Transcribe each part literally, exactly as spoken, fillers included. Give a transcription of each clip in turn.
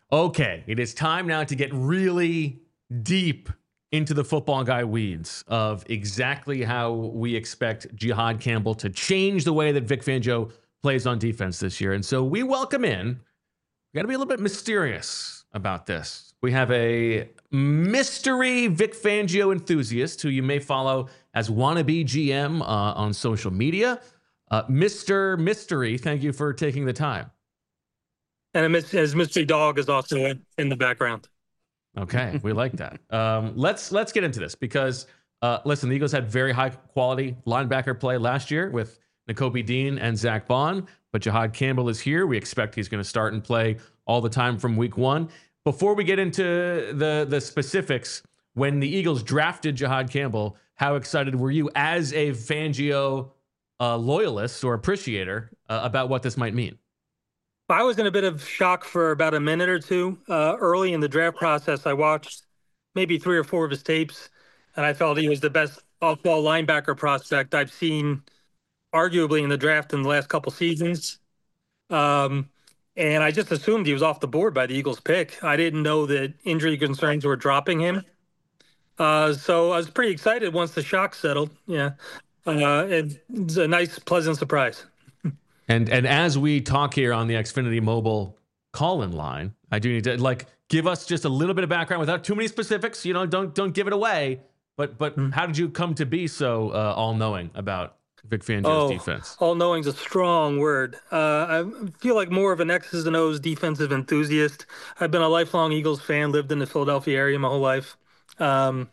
Okay, it is time now to get really deep into the football guy weeds of exactly how we expect Jihad Campbell to change the way that Vic Fangio plays on defense this year. And so we welcome in, we got to be a little bit mysterious about this. We have a mystery Vic Fangio enthusiast who you may follow as wannabe G M uh, on social media. Uh, Mister Mystery, thank you for taking the time. And his mystery dog is also in the background. Okay, we like that. Um, let's let's get into this because uh, listen, the Eagles had very high quality linebacker play last year with Nakobe Dean and Zach Bond, but Jihad Campbell is here. We expect he's going to start and play all the time from week one. Before we get into the the specifics, when the Eagles drafted Jihad Campbell, how excited were you as a Fangio uh, loyalist or appreciator uh, about what this might mean? I was in a bit of shock for about a minute or two. Uh, early in the draft process, I watched maybe three or four of his tapes, and I felt he was the best off-ball linebacker prospect I've seen, arguably in the draft in the last couple seasons. Um, and I just assumed he was off the board by the Eagles pick. I didn't know that injury concerns were dropping him. Uh, so I was pretty excited once the shock settled. Yeah, uh, it, it's a nice, pleasant surprise. And and as we talk here on the Xfinity Mobile call-in line, I do need to like give us just a little bit of background without too many specifics. You know, don't don't give it away. But but mm. how did you come to be so uh, all-knowing about Vic Fangio's oh, defense? All-knowing is a strong word. Uh, I feel like more of an X's and O's defensive enthusiast. I've been a lifelong Eagles fan, lived in the Philadelphia area my whole life. Um,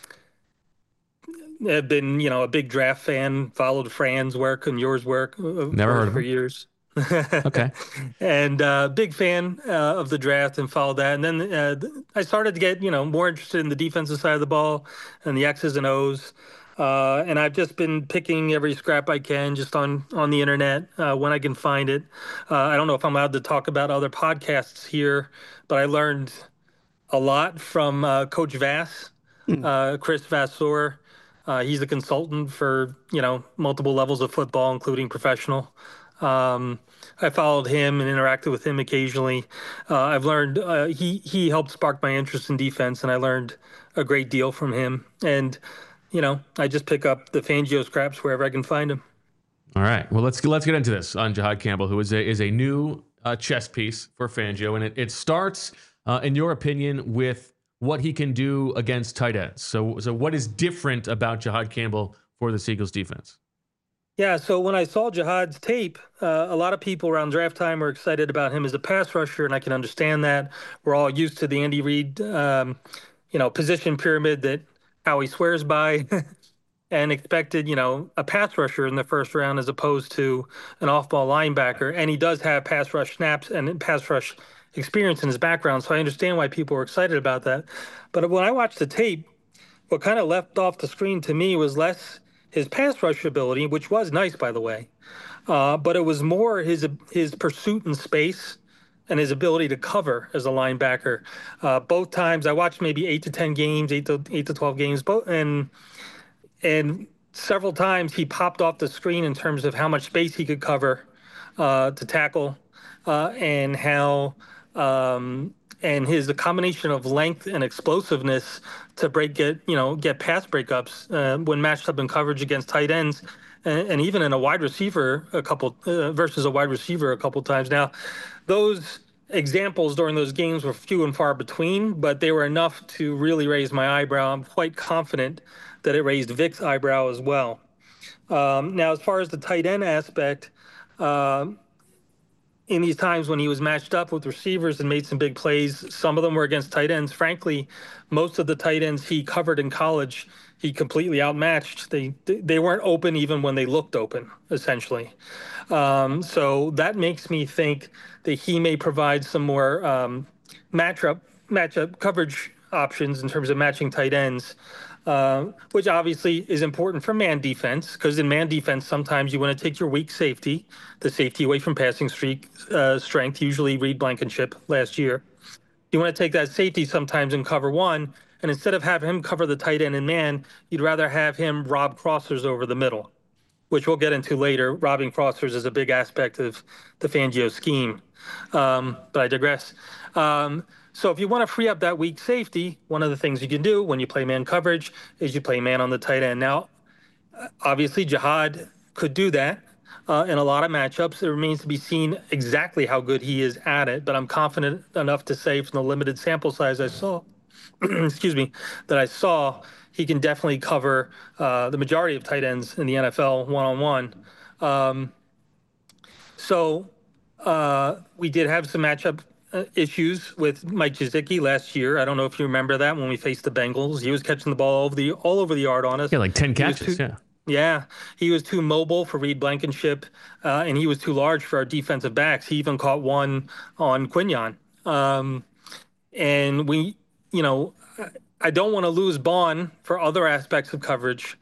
I've been, you know, a big draft fan, followed Fran's work and yours work Never heard of for him. years. Okay. And uh, big fan uh, of the draft and followed that. And then uh, I started to get, you know, more interested in the defensive side of the ball and the X's and O's. Uh, and I've just been picking every scrap I can just on, on the internet uh, when I can find it. Uh, I don't know if I'm allowed to talk about other podcasts here, but I learned a lot from uh, Coach Vass, uh, Chris Vasseur. Uh, he's a consultant for, you know, multiple levels of football, including professional. Um, I followed him and interacted with him occasionally. Uh, I've learned uh, he he helped spark my interest in defense, and I learned a great deal from him. And you know, I just pick up the Fangio scraps wherever I can find them. All right. Well, let's let's get into this on Jihad Campbell, who is a is a new uh, chess piece for Fangio, and it it starts, uh, in your opinion, with what he can do against tight ends. So, so what is different about Jihad Campbell for the Eagles defense? Yeah, so when I saw Jihad's tape, uh, a lot of people around draft time were excited about him as a pass rusher, and I can understand that. We're all used to the Andy Reid, um, you know, position pyramid that Howie swears by, and expected, you know, a pass rusher in the first round as opposed to an off-ball linebacker. And he does have pass rush snaps and pass rush experience in his background, so I understand why people were excited about that. But when I watched the tape, what kind of left off the screen to me was less his pass rush ability, which was nice, by the way, uh, but it was more his his pursuit in space and his ability to cover as a linebacker. Uh, both times I watched maybe eight to ten games, eight to eight to twelve games, both and and several times he popped off the screen in terms of how much space he could cover uh, to tackle uh, and how. Um, and his a combination of length and explosiveness to break get you know get pass breakups uh, when matched up in coverage against tight ends, and, and even in a wide receiver a couple uh, versus a wide receiver a couple times. Now, those examples during those games were few and far between, but they were enough to really raise my eyebrow. I'm quite confident that it raised Vic's eyebrow as well. Um, now, as far as the tight end aspect. Uh, in these times when he was matched up with receivers and made some big plays, some of them were against tight ends. Frankly, most of the tight ends he covered in college, he completely outmatched. They they weren't open even when they looked open, essentially. Um, so that makes me think that he may provide some more um, matchup matchup coverage options in terms of matching tight ends. Uh, which obviously is important for man defense, because in man defense, sometimes you want to take your weak safety, the safety away from passing streak uh, strength, usually Reed Blankenship last year. You want to take that safety sometimes in cover one, and instead of having him cover the tight end in man, you'd rather have him rob crossers over the middle, which we'll get into later. Robbing crossers is a big aspect of the Fangio scheme. Um, but I digress. Um, so if you want to free up that weak safety, one of the things you can do when you play man coverage is you play man on the tight end. Now, obviously, Jihad could do that uh, in a lot of matchups. It remains to be seen exactly how good he is at it, but I'm confident enough to say from the limited sample size I saw, excuse me, that I saw, he can definitely cover uh, the majority of tight ends in the N F L one-on-one. Um, so uh, we did have some matchup uh, issues with Mike Gesicki last year. I don't know if you remember that when we faced the Bengals. He was catching the ball all over the all over the yard on us. Yeah, like ten He was catches. too- Yeah. Yeah, he was too mobile for Reed Blankenship, uh, and he was too large for our defensive backs. He even caught one on Quinyon. Um, and we, you know, I don't want to lose Bond for other aspects of coverage.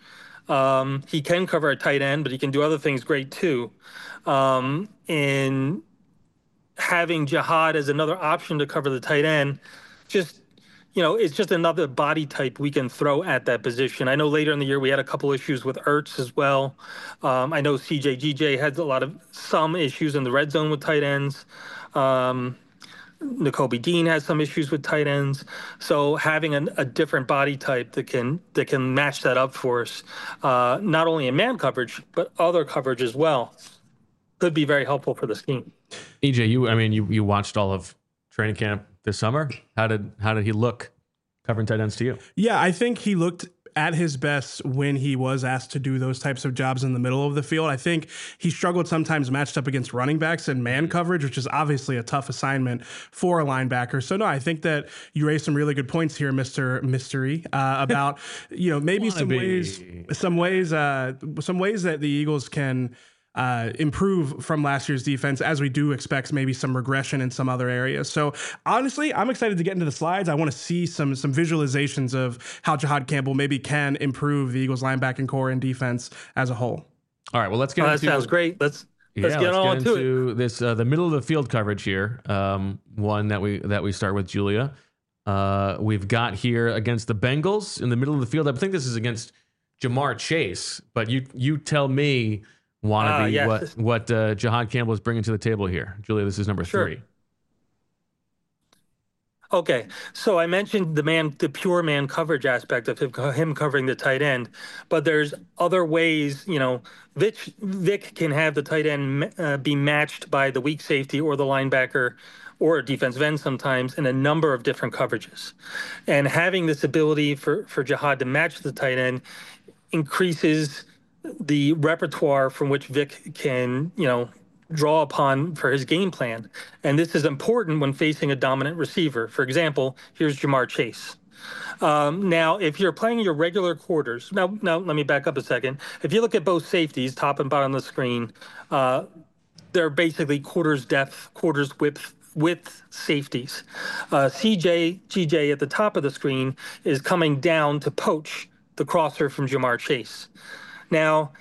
Um, he can cover a tight end, but he can do other things great too. Um, and having Jihad as another option to cover the tight end, just you know, it's just another body type we can throw at that position. I know later in the year we had a couple issues with Ertz as well. Um, I know C J G J had a lot of some issues in the red zone with tight ends. Um, Nakobe Dean has some issues with tight ends. So having an, a different body type that can that can match that up for us, uh, not only in man coverage but other coverage as well, could be very helpful for the scheme. E J, you I mean you you watched all of training camp this summer. How did how did he look covering tight ends to you? Yeah, I think he looked at his best when he was asked to do those types of jobs in the middle of the field. I think he struggled sometimes matched up against running backs and man coverage, which is obviously a tough assignment for a linebacker. So no, I think that you raised some really good points here, Mister Mystery, uh, about you know maybe some ways, some ways, uh, some ways that the Eagles can uh, improve from last year's defense, as we do expect maybe some regression in some other areas. So honestly, I'm excited to get into the slides. I want to see some some visualizations of how Jihad Campbell maybe can improve the Eagles linebacking core and defense as a whole. All right, well, let's get Oh, into that sounds great. Let's let's yeah, get let's on get to into it. this uh, the middle of the field coverage here. Um, one that we that we start with, Julia. Uh, we've got here against the Bengals in the middle of the field. I think this is against Jamar Chase, but you you tell me, wannabe, Ah, yes. what what uh, Jihad Campbell is bringing to the table here. Julia, this is number Sure. three. Okay, so I mentioned the man, the pure man coverage aspect of him, him covering the tight end, but there's other ways. You know, Vic, Vic can have the tight end uh, be matched by the weak safety or the linebacker or a defensive end sometimes in a number of different coverages, and having this ability for for Jihad to match the tight end increases the repertoire from which Vic can, you know, draw upon for his game plan. And this is important when facing a dominant receiver. For example, here's Jamar Chase. Um, now, if you're playing your regular quarters, now, now let me back up a second. If you look at both safeties, top and bottom of the screen, uh, they're basically quarters depth, quarters width, width safeties. Uh, C J G J at the top of the screen is coming down to poach the crosser from Jamar Chase. Now,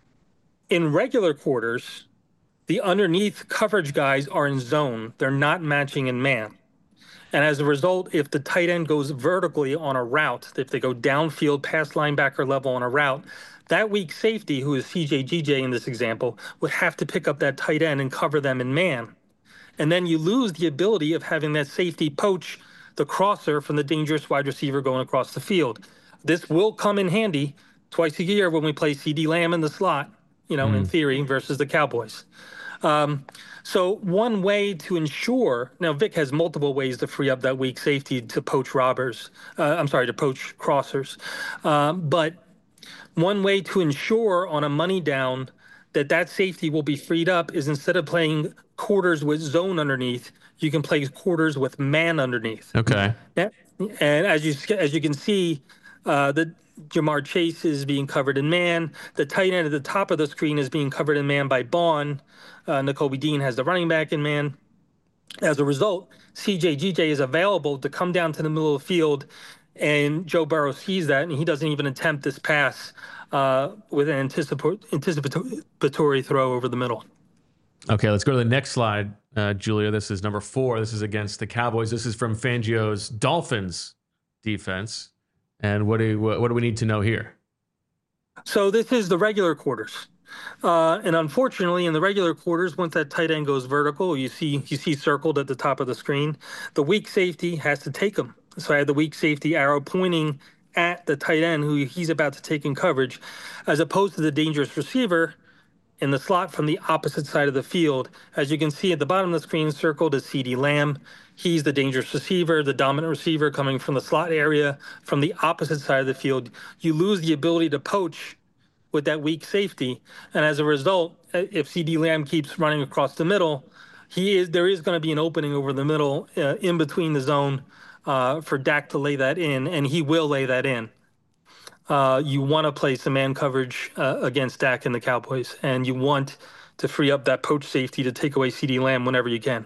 in regular quarters, the underneath coverage guys are in zone. They're not matching in man. And as a result, if the tight end goes vertically on a route, if they go downfield past linebacker level on a route, that weak safety, who is C J G J in this example, would have to pick up that tight end and cover them in man. And then you lose the ability of having that safety poach the crosser from the dangerous wide receiver going across the field. This will come in handy twice a year when we play CeeDee Lamb in the slot, you know, mm. in theory, versus the Cowboys. Um, so one way to ensure, now Vic has multiple ways to free up that weak safety to poach robbers. Uh, I'm sorry, to poach crossers. Um, but one way to ensure on a money down that that safety will be freed up is instead of playing quarters with zone underneath, you can play quarters with man underneath. Okay. And as you as you can see, uh, the Jamar Chase is being covered in man. The tight end at the top of the screen is being covered in man by Bond. Uh, Nakobe Dean has the running back in man. As a result, C J G J is available to come down to the middle of the field, and Joe Burrow sees that, and he doesn't even attempt this pass uh, with an anticip- anticipatory throw over the middle. Okay, let's go to the next slide, uh, Julia. This is number four. This is against the Cowboys. This is from Fangio's Dolphins defense. And what do what do we need to know here? So this is the regular quarters. Uh, and unfortunately, in the regular quarters, once that tight end goes vertical, you see you see circled at the top of the screen, the weak safety has to take him. So I had the weak safety arrow pointing at the tight end who he's about to take in coverage, as opposed to the dangerous receiver in the slot from the opposite side of the field. As you can see at the bottom of the screen, circled is CeeDee Lamb. He's the dangerous receiver, the dominant receiver coming from the slot area from the opposite side of the field. You lose the ability to poach with that weak safety. And as a result, if CeeDee Lamb keeps running across the middle, he is there is going to be an opening over the middle uh, in between the zone uh, for Dak to lay that in, and he will lay that in. Uh, you want to play some man coverage uh, against Dak and the Cowboys, and you want to free up that poach safety to take away CeeDee Lamb whenever you can.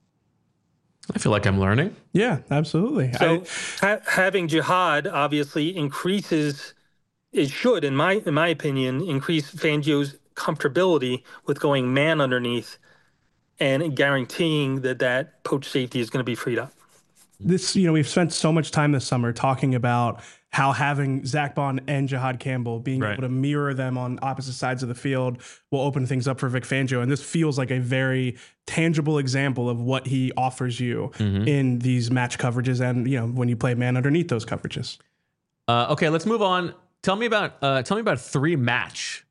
I feel like I'm learning. Yeah, absolutely. So I, ha- having Jihad obviously increases, it should, in my in my opinion, increase Fangio's comfortability with going man underneath and guaranteeing that that poach safety is going to be freed up. this, you know, we've spent so much time this summer talking about how having Zach Bond and Jihad Campbell being Right. able to mirror them on opposite sides of the field will open things up for Vic Fangio. And this feels like a very tangible example of what he offers you Mhm. in these match coverages and, you know, when you play man underneath those coverages. Uh, okay, let's move on. Tell me about uh, tell me about three match.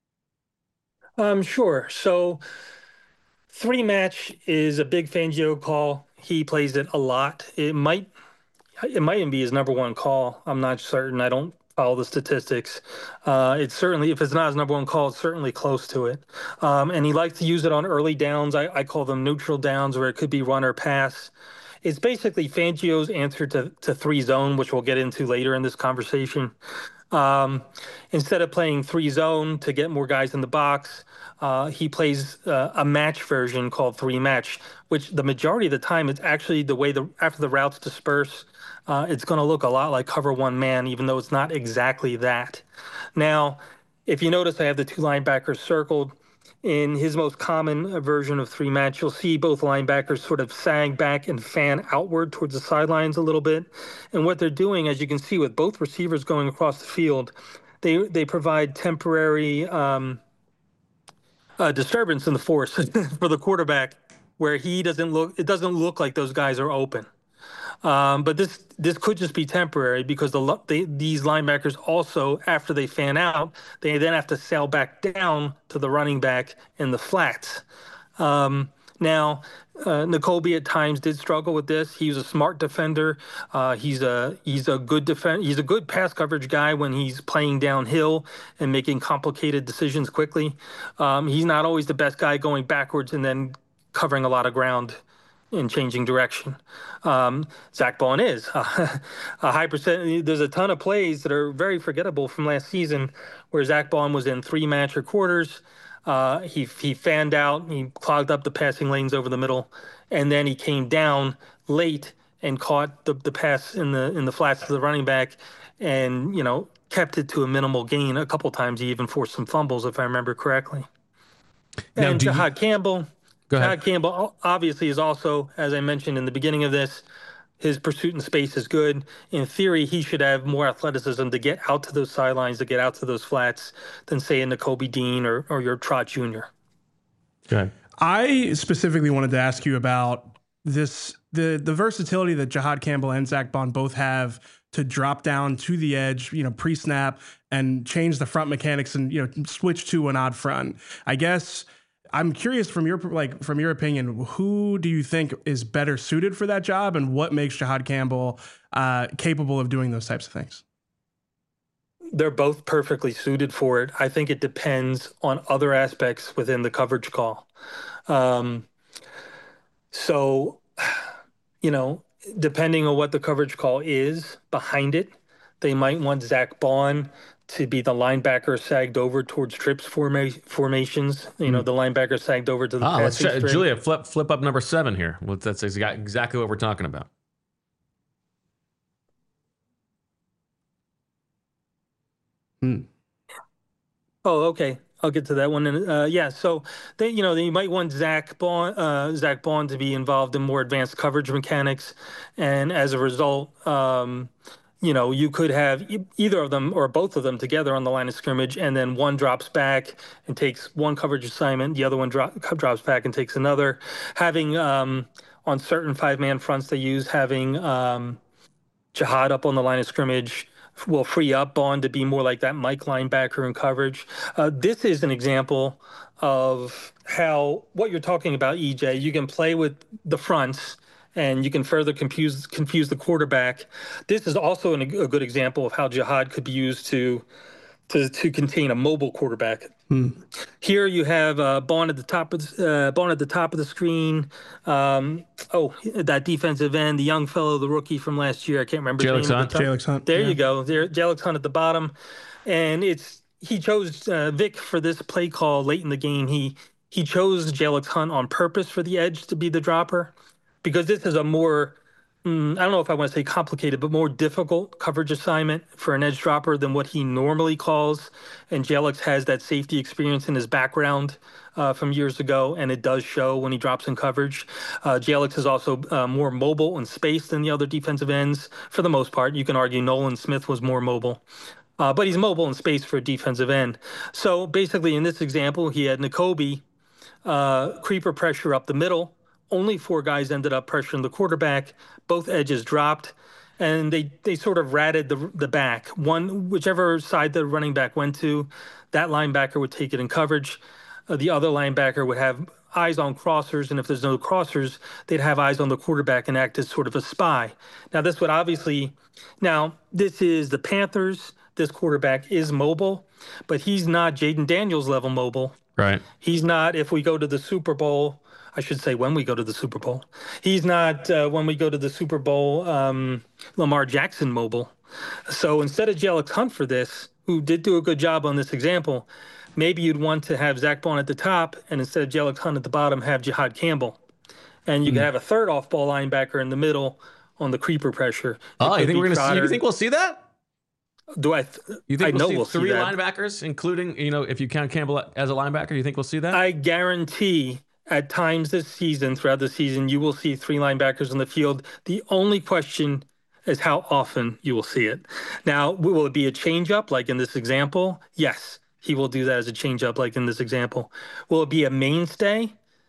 Um, sure. So three match is a big Fangio call. He plays it a lot. It might it might even be his number one call. I'm not certain. I don't follow the statistics. Uh, it's certainly, if it's not his number one call, it's certainly close to it. Um, and he likes to use it on early downs. I, I call them neutral downs, where it could be run or pass. It's basically Fangio's answer to, to three zone, which we'll get into later in this conversation. Um, instead of playing three zone to get more guys in the box, uh, he plays uh, a match version called three match, which the majority of the time it's actually the way the after the routes disperse, uh, it's going to look a lot like cover one man, even though it's not exactly that. Now, if you notice, I have the two linebackers circled. In his most common version of three match, you'll see both linebackers sort of sag back and fan outward towards the sidelines a little bit. And what they're doing, as you can see with both receivers going across the field, they they provide temporary um, uh, disturbance in the force for the quarterback, where he doesn't look. It doesn't look like those guys are open. Um, but this this could just be temporary because the lo- they, these linebackers also, after they fan out, they then have to sail back down to the running back in the flats. Um, now, uh, N'Kobe at times did struggle with this. He was a smart defender. Uh, he's a he's a good defend. He's a good pass coverage guy when he's playing downhill and making complicated decisions quickly. Um, he's not always the best guy going backwards and then covering a lot of ground in changing direction. Um, Zach Bond is uh, a high percent. There's a ton of plays that are very forgettable from last season where Zach Bond was in three match or quarters. Uh, he he fanned out, he clogged up the passing lanes over the middle, and then he came down late and caught the, the pass in the in the flats to the running back, and you know kept it to a minimal gain. A couple times he even forced some fumbles, if I remember correctly. Now, And do you- Jihad Campbell. Go ahead. Jihad Campbell obviously is also, as I mentioned in the beginning of this, his pursuit in space is good. In theory, he should have more athleticism to get out to those sidelines, to get out to those flats, than say a N'Kobe Dean or, or your Trot Junior Go ahead. I specifically wanted to ask you about this the the versatility that Jihad Campbell and Zach Bond both have to drop down to the edge, you know, pre-snap and change the front mechanics and, you know, switch to an odd front. I guess I'm curious from your like from your opinion, who do you think is better suited for that job, and what makes Jihad Campbell uh, capable of doing those types of things? They're both perfectly suited for it. I think it depends on other aspects within the coverage call. Um, so, you know, depending on what the coverage call is behind it, they might want Zach Bond to be the linebacker sagged over towards trips forma- formations. You know, the linebacker sagged over to the Ah, let's passing check. string. Julia, flip flip up number seven here. Well, that's exa- exactly what we're talking about. Hmm. Oh, okay. I'll get to that one. And uh, yeah, so they, you know, they might want Zach Bond, uh, Zach Bond to be involved in more advanced coverage mechanics, and as a result, um, you know, you could have e- either of them or both of them together on the line of scrimmage, and then one drops back and takes one coverage assignment, the other one dro- drops back and takes another. Having um, on certain five-man fronts they use, having um, Jihad up on the line of scrimmage will free up Bond to be more like that Mike linebacker in coverage. Uh, this is an example of how what you're talking about, E J. You can play with the fronts and you can further confuse confuse the quarterback. This is also an, a good example of how Jihad could be used to to to contain a mobile quarterback. Hmm. Here you have uh, Bond at the top of the, uh, Bond at the top of the screen. Um, oh, that defensive end, the young fellow, the rookie from last year. I can't remember his Jalen name. Hunt. At the Jalen Hunt. There yeah. you go. There, Jalen Hunt at the bottom, and it's he chose uh, Vic for this play call late in the game. He he chose Jalen Hunt on purpose for the edge to be the dropper, because this is a more Mm, I don't know if I want to say complicated, but more difficult coverage assignment for an edge dropper than what he normally calls. And Jelix has that safety experience in his background uh, from years ago, and it does show when he drops in coverage. Uh, Jelix is also uh, more mobile in space than the other defensive ends for the most part. You can argue Nolan Smith was more mobile. Uh, but he's mobile in space for a defensive end. So basically, in this example, he had Nakobe uh, creeper pressure up the middle. Only four guys ended up pressuring the quarterback. Both edges dropped, and they they sort of ratted the the back. One, whichever side the running back went to, that linebacker would take it in coverage. Uh, the other linebacker would have eyes on crossers, and if there's no crossers, they'd have eyes on the quarterback and act as sort of a spy. Now, this would obviously, now this is the Panthers. This quarterback is mobile, but he's not Jaden Daniels level mobile. Right. He's not, if we go to the Super Bowl, I should say when we go to the Super Bowl. He's not, uh, when we go to the Super Bowl, um, Lamar Jackson mobile. So instead of Jelix Hunt for this, who did do a good job on this example, maybe you'd want to have Zach Bond at the top, and instead of Jelix Hunt at the bottom, have Jihad Campbell. And you Hmm. could have a third off-ball linebacker in the middle on the creeper pressure. It Oh, you could think be we're gonna see? Trotter. You think we'll see that? Do I? Th- You think I we'll know see we'll three see that. linebackers, including, you know, if you count Campbell as a linebacker? You think we'll see that? I guarantee at times this season, throughout the season, you will see three linebackers on the field. The only question is how often you will see it. Now, will it be a changeup like in this example? Yes, he will do that as a changeup like in this example. Will it be a mainstay?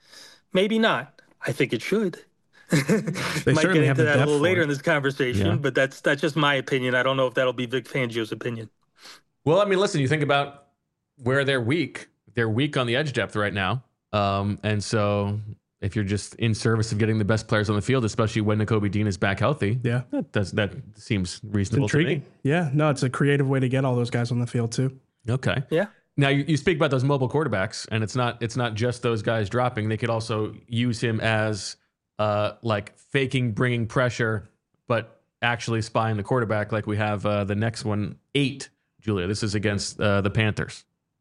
Maybe not. I think it should. They Might get certainly have into the that a depth little for later it. in this conversation, Yeah. but that's that's just my opinion. I don't know if that'll be Vic Fangio's opinion. Well, I mean, listen, you think about where they're weak. They're weak on the edge depth right now. Um, and so if you're just in service of getting the best players on the field, especially when Nakobe Dean is back healthy, Yeah. that does that seems It's reasonable to intriguing. me. Yeah. No, it's a creative way to get all those guys on the field too. Okay. Yeah. Now you, you speak about those mobile quarterbacks, and it's not it's not just those guys dropping. They could also use him as uh, like faking bringing pressure, but actually spying the quarterback, like we have uh, the next one, eight. Julia, this is against uh, the Panthers.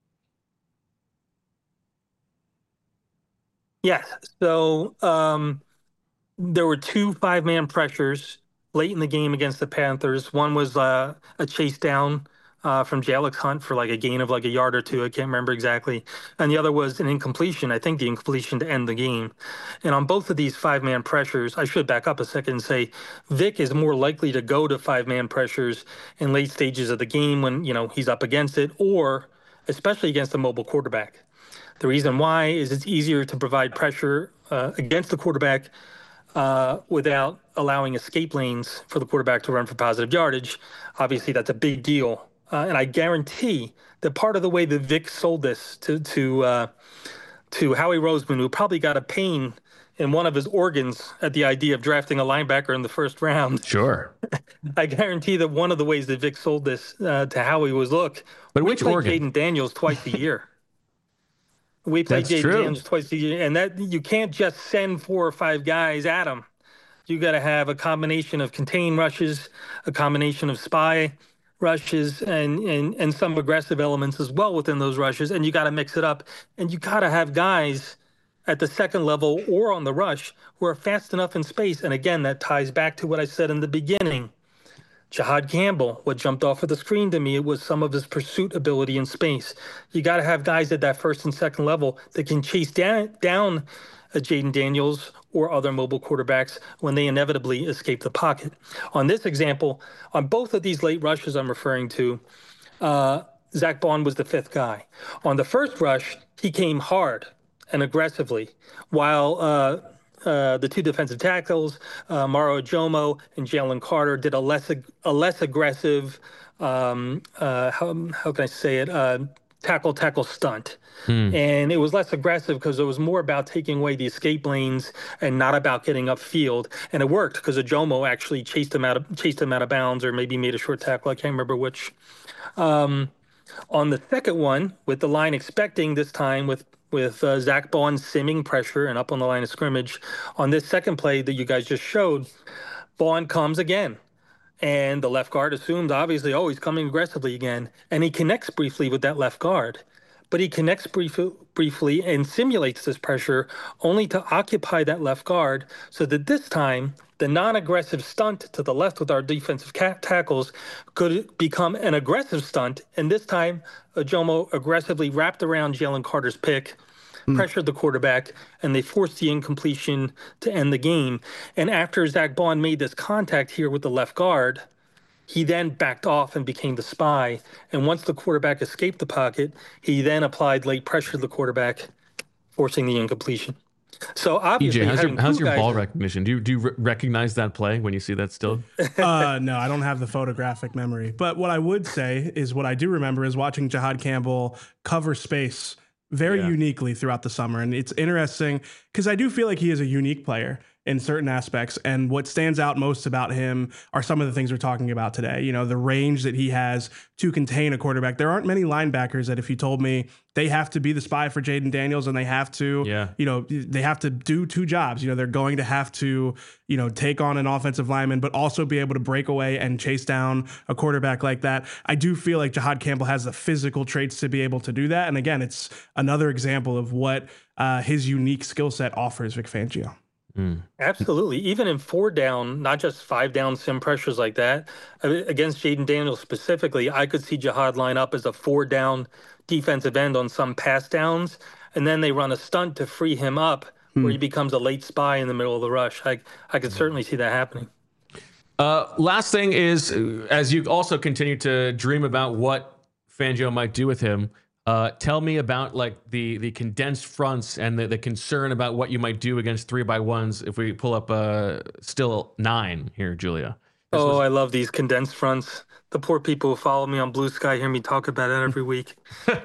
Yes. So um, there were two five-man pressures late in the game against the Panthers. One was uh, a chase down uh, from Jalix Hunt for like a gain of like a yard or two. I can't remember exactly. And the other was an incompletion. I think the incompletion to end the game. And on both of these five-man pressures, I should back up a second and say Vic is more likely to go to five-man pressures in late stages of the game when, you know, he's up against it, or especially against a mobile quarterback. The reason why is it's easier to provide pressure uh, against the quarterback uh, without allowing escape lanes for the quarterback to run for positive yardage. Obviously, that's a big deal. Uh, and I guarantee that part of the way that Vic sold this to to uh, to Howie Roseman, who probably got a pain in one of his organs at the idea of drafting a linebacker in the first round. Sure. I guarantee that one of the ways that Vic sold this uh, to Howie was, look, But we which play organ? Jaden Daniels twice a year. We play That's Jaden true. Daniels twice a year, and that you can't just send four or five guys at him. You got to have a combination of contain rushes, a combination of spy rushes, and and and some aggressive elements as well within those rushes. And you got to mix it up, and you got to have guys at the second level or on the rush who are fast enough in space. And again, that ties back to what I said in the beginning. Jihad Campbell, what jumped off of the screen to me, it was some of his pursuit ability in space. You got to have guys at that first and second level that can chase down, down uh, Jaden Daniels or other mobile quarterbacks when they inevitably escape the pocket. On this example, on both of these late rushes I'm referring to, uh, Zach Bond was the fifth guy. On the first rush, he came hard and aggressively, while uh, uh, the two defensive tackles, uh, Maro Ajomo and Jalen Carter, did a less a less aggressive, um, uh, how, how can I say it, uh, tackle tackle stunt. Hmm. And it was less aggressive because it was more about taking away the escape lanes and not about getting upfield. And it worked because Ajomo actually chased him out of chased him out of bounds, or maybe made a short tackle. I can't remember which. Um, on the second one, with the line expecting this time with with uh, Zach Bond simming pressure and up on the line of scrimmage, on this second play that you guys just showed, Bond comes again. And the left guard assumes, obviously, oh, he's coming aggressively again. And he connects briefly with that left guard. But he connects brief, briefly and simulates this pressure only to occupy that left guard so that this time the non-aggressive stunt to the left with our defensive cat tackles could become an aggressive stunt. And this time, Ajomo aggressively wrapped around Jalen Carter's pick, mm. pressured the quarterback, and they forced the incompletion to end the game. And after Zach Bond made this contact here with the left guard, he then backed off and became the spy. And once the quarterback escaped the pocket, he then applied late pressure to the quarterback, forcing the incompletion. So obviously, E J, how's your, how's your guys, ball recognition? Do you do you re- recognize that play when you see that still? uh, no, I don't have the photographic memory. But what I would say is what I do remember is watching Jihad Campbell cover space very yeah. uniquely throughout the summer. And it's interesting because I do feel like he is a unique player in certain aspects. And what stands out most about him are some of the things we're talking about today. You know, the range that he has to contain a quarterback. There aren't many linebackers that if you told me they have to be the spy for Jaden Daniels and they have to, yeah. you know, they have to do two jobs. You know, they're going to have to, you know, take on an offensive lineman, but also be able to break away and chase down a quarterback like that. I do feel like Jihad Campbell has the physical traits to be able to do that. And again, it's another example of what uh, his unique skill set offers Vic Fangio. Mm. Absolutely. Even in four down, not just five down sim pressures like that, against Jaden Daniels specifically, I could see Jihad line up as a four down defensive end on some pass downs, and then they run a stunt to free him up mm. where he becomes a late spy in the middle of the rush. I, I could certainly see that happening. Uh, last thing is, as you also continue to dream about what Fangio might do with him, Uh, tell me about like the the condensed fronts and the, the concern about what you might do against three by ones if we pull up uh, still nine here, Julia. This oh, was... I love these condensed fronts. The poor people who follow me on Blue Sky hear me talk about it every week.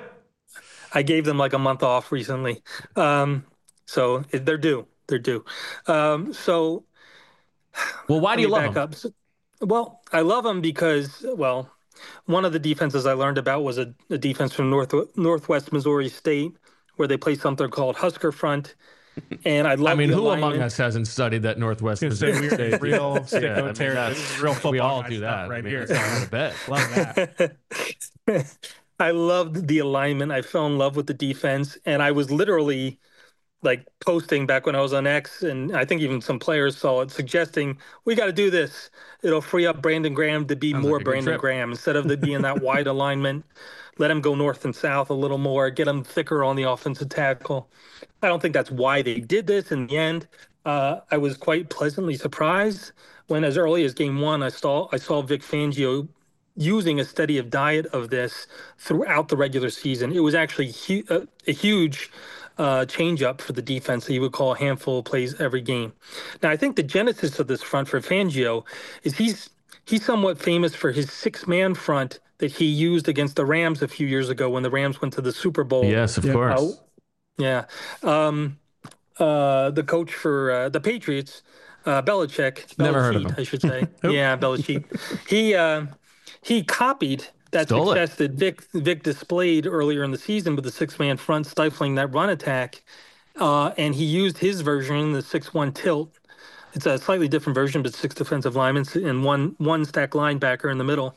I gave them like a month off recently. Um, so it, they're due. They're due. Um, so, well, why do you love them? So, well, I love them because, well, one of the defenses I learned about was a, a defense from North Northwest Missouri State, where they play something called Husker Front. And I love. I mean, the who alignment. among us hasn't studied that Northwest Missouri State? Real sicko yeah, I mean, territory. This is real football. We all do that right I mean, here. It's not a bet. Love that. I loved the alignment. I fell in love with the defense, and I was literally like posting back when I was on X, and I think even some players saw it, suggesting we got to do this. It'll free up Brandon Graham to be Sounds more like Brandon Graham instead of the being that wide alignment. Let him go north and south a little more, get him thicker on the offensive tackle. I don't think that's why they did this in the end. Uh, I was quite pleasantly surprised when, as early as game one, I saw I saw Vic Fangio using a steady of diet of this throughout the regular season. It was actually hu- a, a huge Uh, change up for the defense that he would call a handful of plays every game. Now, I think the genesis of this front for Fangio is he's he's somewhat famous for his six-man front that he used against the Rams a few years ago when the Rams went to the Super Bowl. Yes, of yeah. course. Uh, yeah. Um, uh, the coach for uh, the Patriots, uh, Belichick. Never Belichick, heard of him. I should say. yeah, Belichick. He uh, he copied that Stole success it. that Vic Vic displayed earlier in the season with the six-man front stifling that run attack, uh, and he used his version, the six one tilt. It's a slightly different version, but six defensive linemen and one one stack linebacker in the middle.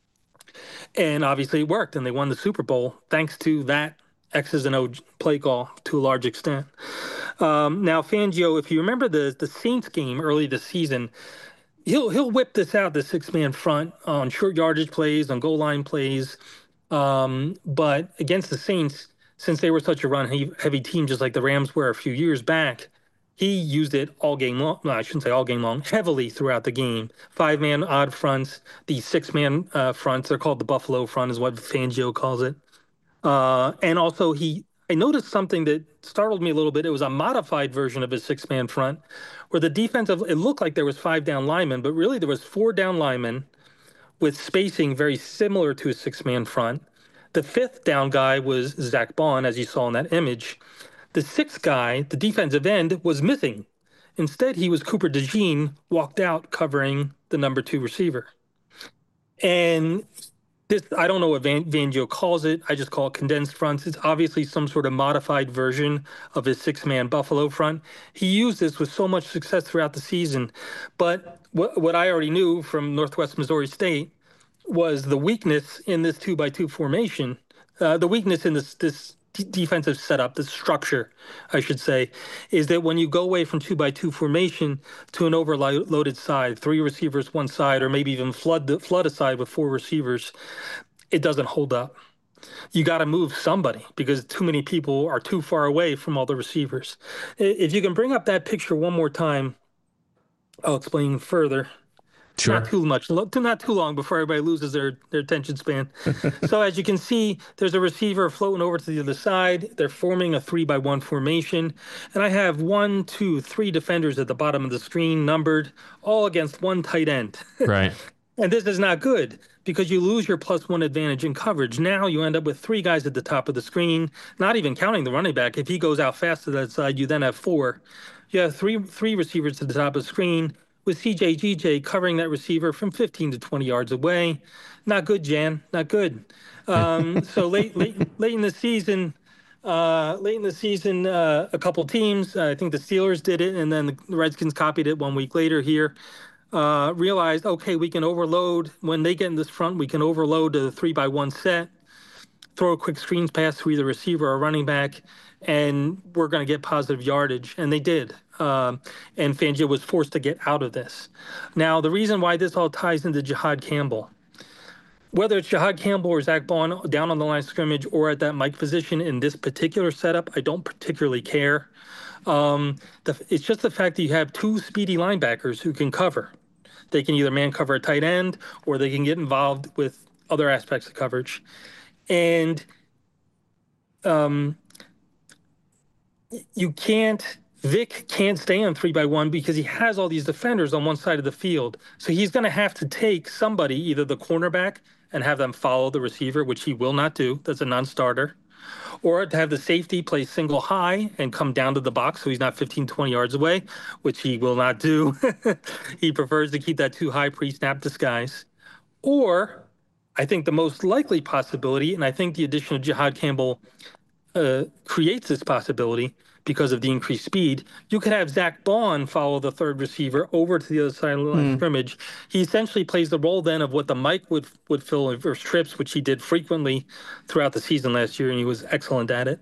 And obviously it worked, and they won the Super Bowl thanks to that X's and O play call to a large extent. Um, now, Fangio, if you remember the the Saints game early this season, he'll he'll whip this out, the six man front on short yardage plays, on goal line plays. Um, but against the Saints, since they were such a run heavy team, just like the Rams were a few years back, he used it all game long. No, I shouldn't say all game long, heavily throughout the game. Five man odd fronts, the six man uh, fronts, they're called the Buffalo front, is what Fangio calls it. Uh, and also, he, I noticed something that startled me a little bit. It was a modified version of his six man front, where the defensive, it looked like there was five down linemen, but really there was four down linemen with spacing very similar to a six man front. The fifth down guy was Zach Bond, as you saw in that image. The sixth guy, the defensive end, was missing. Instead, he was Cooper DeJean, walked out covering the number two receiver. And this, I don't know what Van, Fangio calls it. I just call it condensed fronts. It's obviously some sort of modified version of his six-man Buffalo front. He used this with so much success throughout the season. But what, what I already knew from Northwest Missouri State was the weakness in this two by two formation, uh, the weakness in this this d- defensive setup, this structure, I should say, is that when you go away from two by two formation to an overloaded side, three receivers one side, or maybe even flood the, flood a side with four receivers, it doesn't hold up. You got to move somebody because too many people are too far away from all the receivers. If you can bring up that picture one more time, I'll explain further. Sure. Not too much, not too long before everybody loses their, their attention span. So as you can see, there's a receiver floating over to the other side. They're forming a three by one formation. And I have one, two, three defenders at the bottom of the screen numbered, all against one tight end. Right. And this is not good because you lose your plus one advantage in coverage. Now you end up with three guys at the top of the screen, not even counting the running back. If he goes out fast to that side, you then have four. You have three, three receivers at the top of the screen, with C J G J covering that receiver from fifteen to twenty yards away. Not good, Jan. Not good. Um, so late, late, late in the season, uh, late in the season, uh, a couple teams, uh, I think the Steelers did it, and then the Redskins copied it one week later here. Uh, realized, okay, we can overload when they get in this front. We can overload to the three by one set, throw a quick screens pass to either receiver or running back, and we're going to get positive yardage. And they did. Um, and Fangio was forced to get out of this. Now, the reason why this all ties into Jihad Campbell, whether it's Jihad Campbell or Zach Bond down on the line of scrimmage or at that Mike position in this particular setup, I don't particularly care. Um, the, it's just the fact that you have two speedy linebackers who can cover. They can either man cover a tight end or they can get involved with other aspects of coverage. And um, you can't, Vic can't stay on three by one because he has all these defenders on one side of the field. So he's going to have to take somebody, either the cornerback and have them follow the receiver, which he will not do. That's a non-starter. Or to have the safety play single high and come down to the box so he's not fifteen, twenty yards away, which he will not do. He prefers to keep that too high pre-snap disguise. Or I think the most likely possibility, and I think the addition of Jihad Campbell uh, creates this possibility because of the increased speed, you could have Zach Bond follow the third receiver over to the other side of the line of scrimmage. He essentially plays the role then of what the Mike would would fill in reverse trips, which he did frequently throughout the season last year, and he was excellent at it.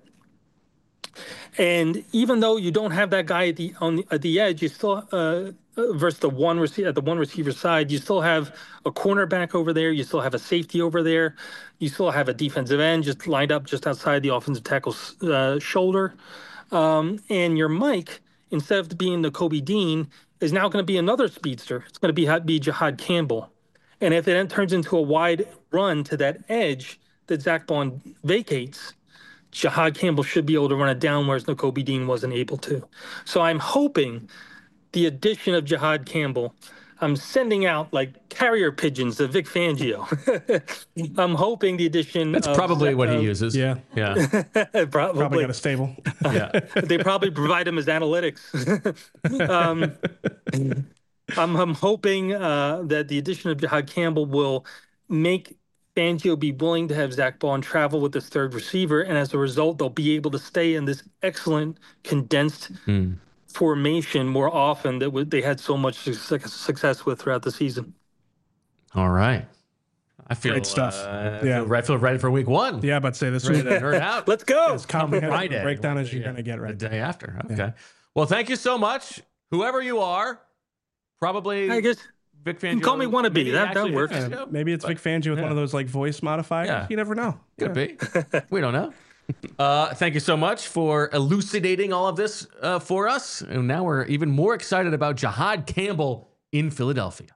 And even though you don't have that guy at the on the, at the edge, you still uh, versus the one receiver at the one receiver side, you still have a cornerback over there, you still have a safety over there, you still have a defensive end just lined up just outside the offensive tackle's uh, shoulder. Um, and your Mike, instead of being the Kobe Dean, is now going to be another speedster. It's going to be, be Jihad Campbell. And if it then turns into a wide run to that edge that Zach Bond vacates, Jihad Campbell should be able to run it down, whereas Nakobe Dean wasn't able to. So I'm hoping the addition of Jihad Campbell, I'm sending out like carrier pigeons to Vic Fangio. I'm hoping the addition. That's of, probably what uh, he uses. Yeah. Yeah. probably. Probably got a stable. Yeah. They probably provide him as analytics. um, I'm, I'm hoping uh, that the addition of Jihad Campbell will make Fangio be willing to have Zach Bond travel with this third receiver, and as a result, they'll be able to stay in this excellent condensed mm. formation more often that w- they had so much su- success with throughout the season. All right. I feel great stuff. Uh, yeah, I feel, I feel ready for week one. Yeah, but say this ready week. to nerd out. Let's go. As comprehensive breakdown as you're yeah. going to get right the day after. Okay. Yeah. Well, thank you so much, whoever you are. Probably I guess Vic Fangio. You can call me wannabe. maybe That- that actually works. Vic Yeah, Fangio? maybe it's Vic Fangio with Yeah. one of those like voice modifiers. Yeah. You never know. Could Yeah. be. We don't know. Uh, thank you so much for elucidating all of this uh, for us. And now we're even more excited about Jihaad Campbell in Philadelphia.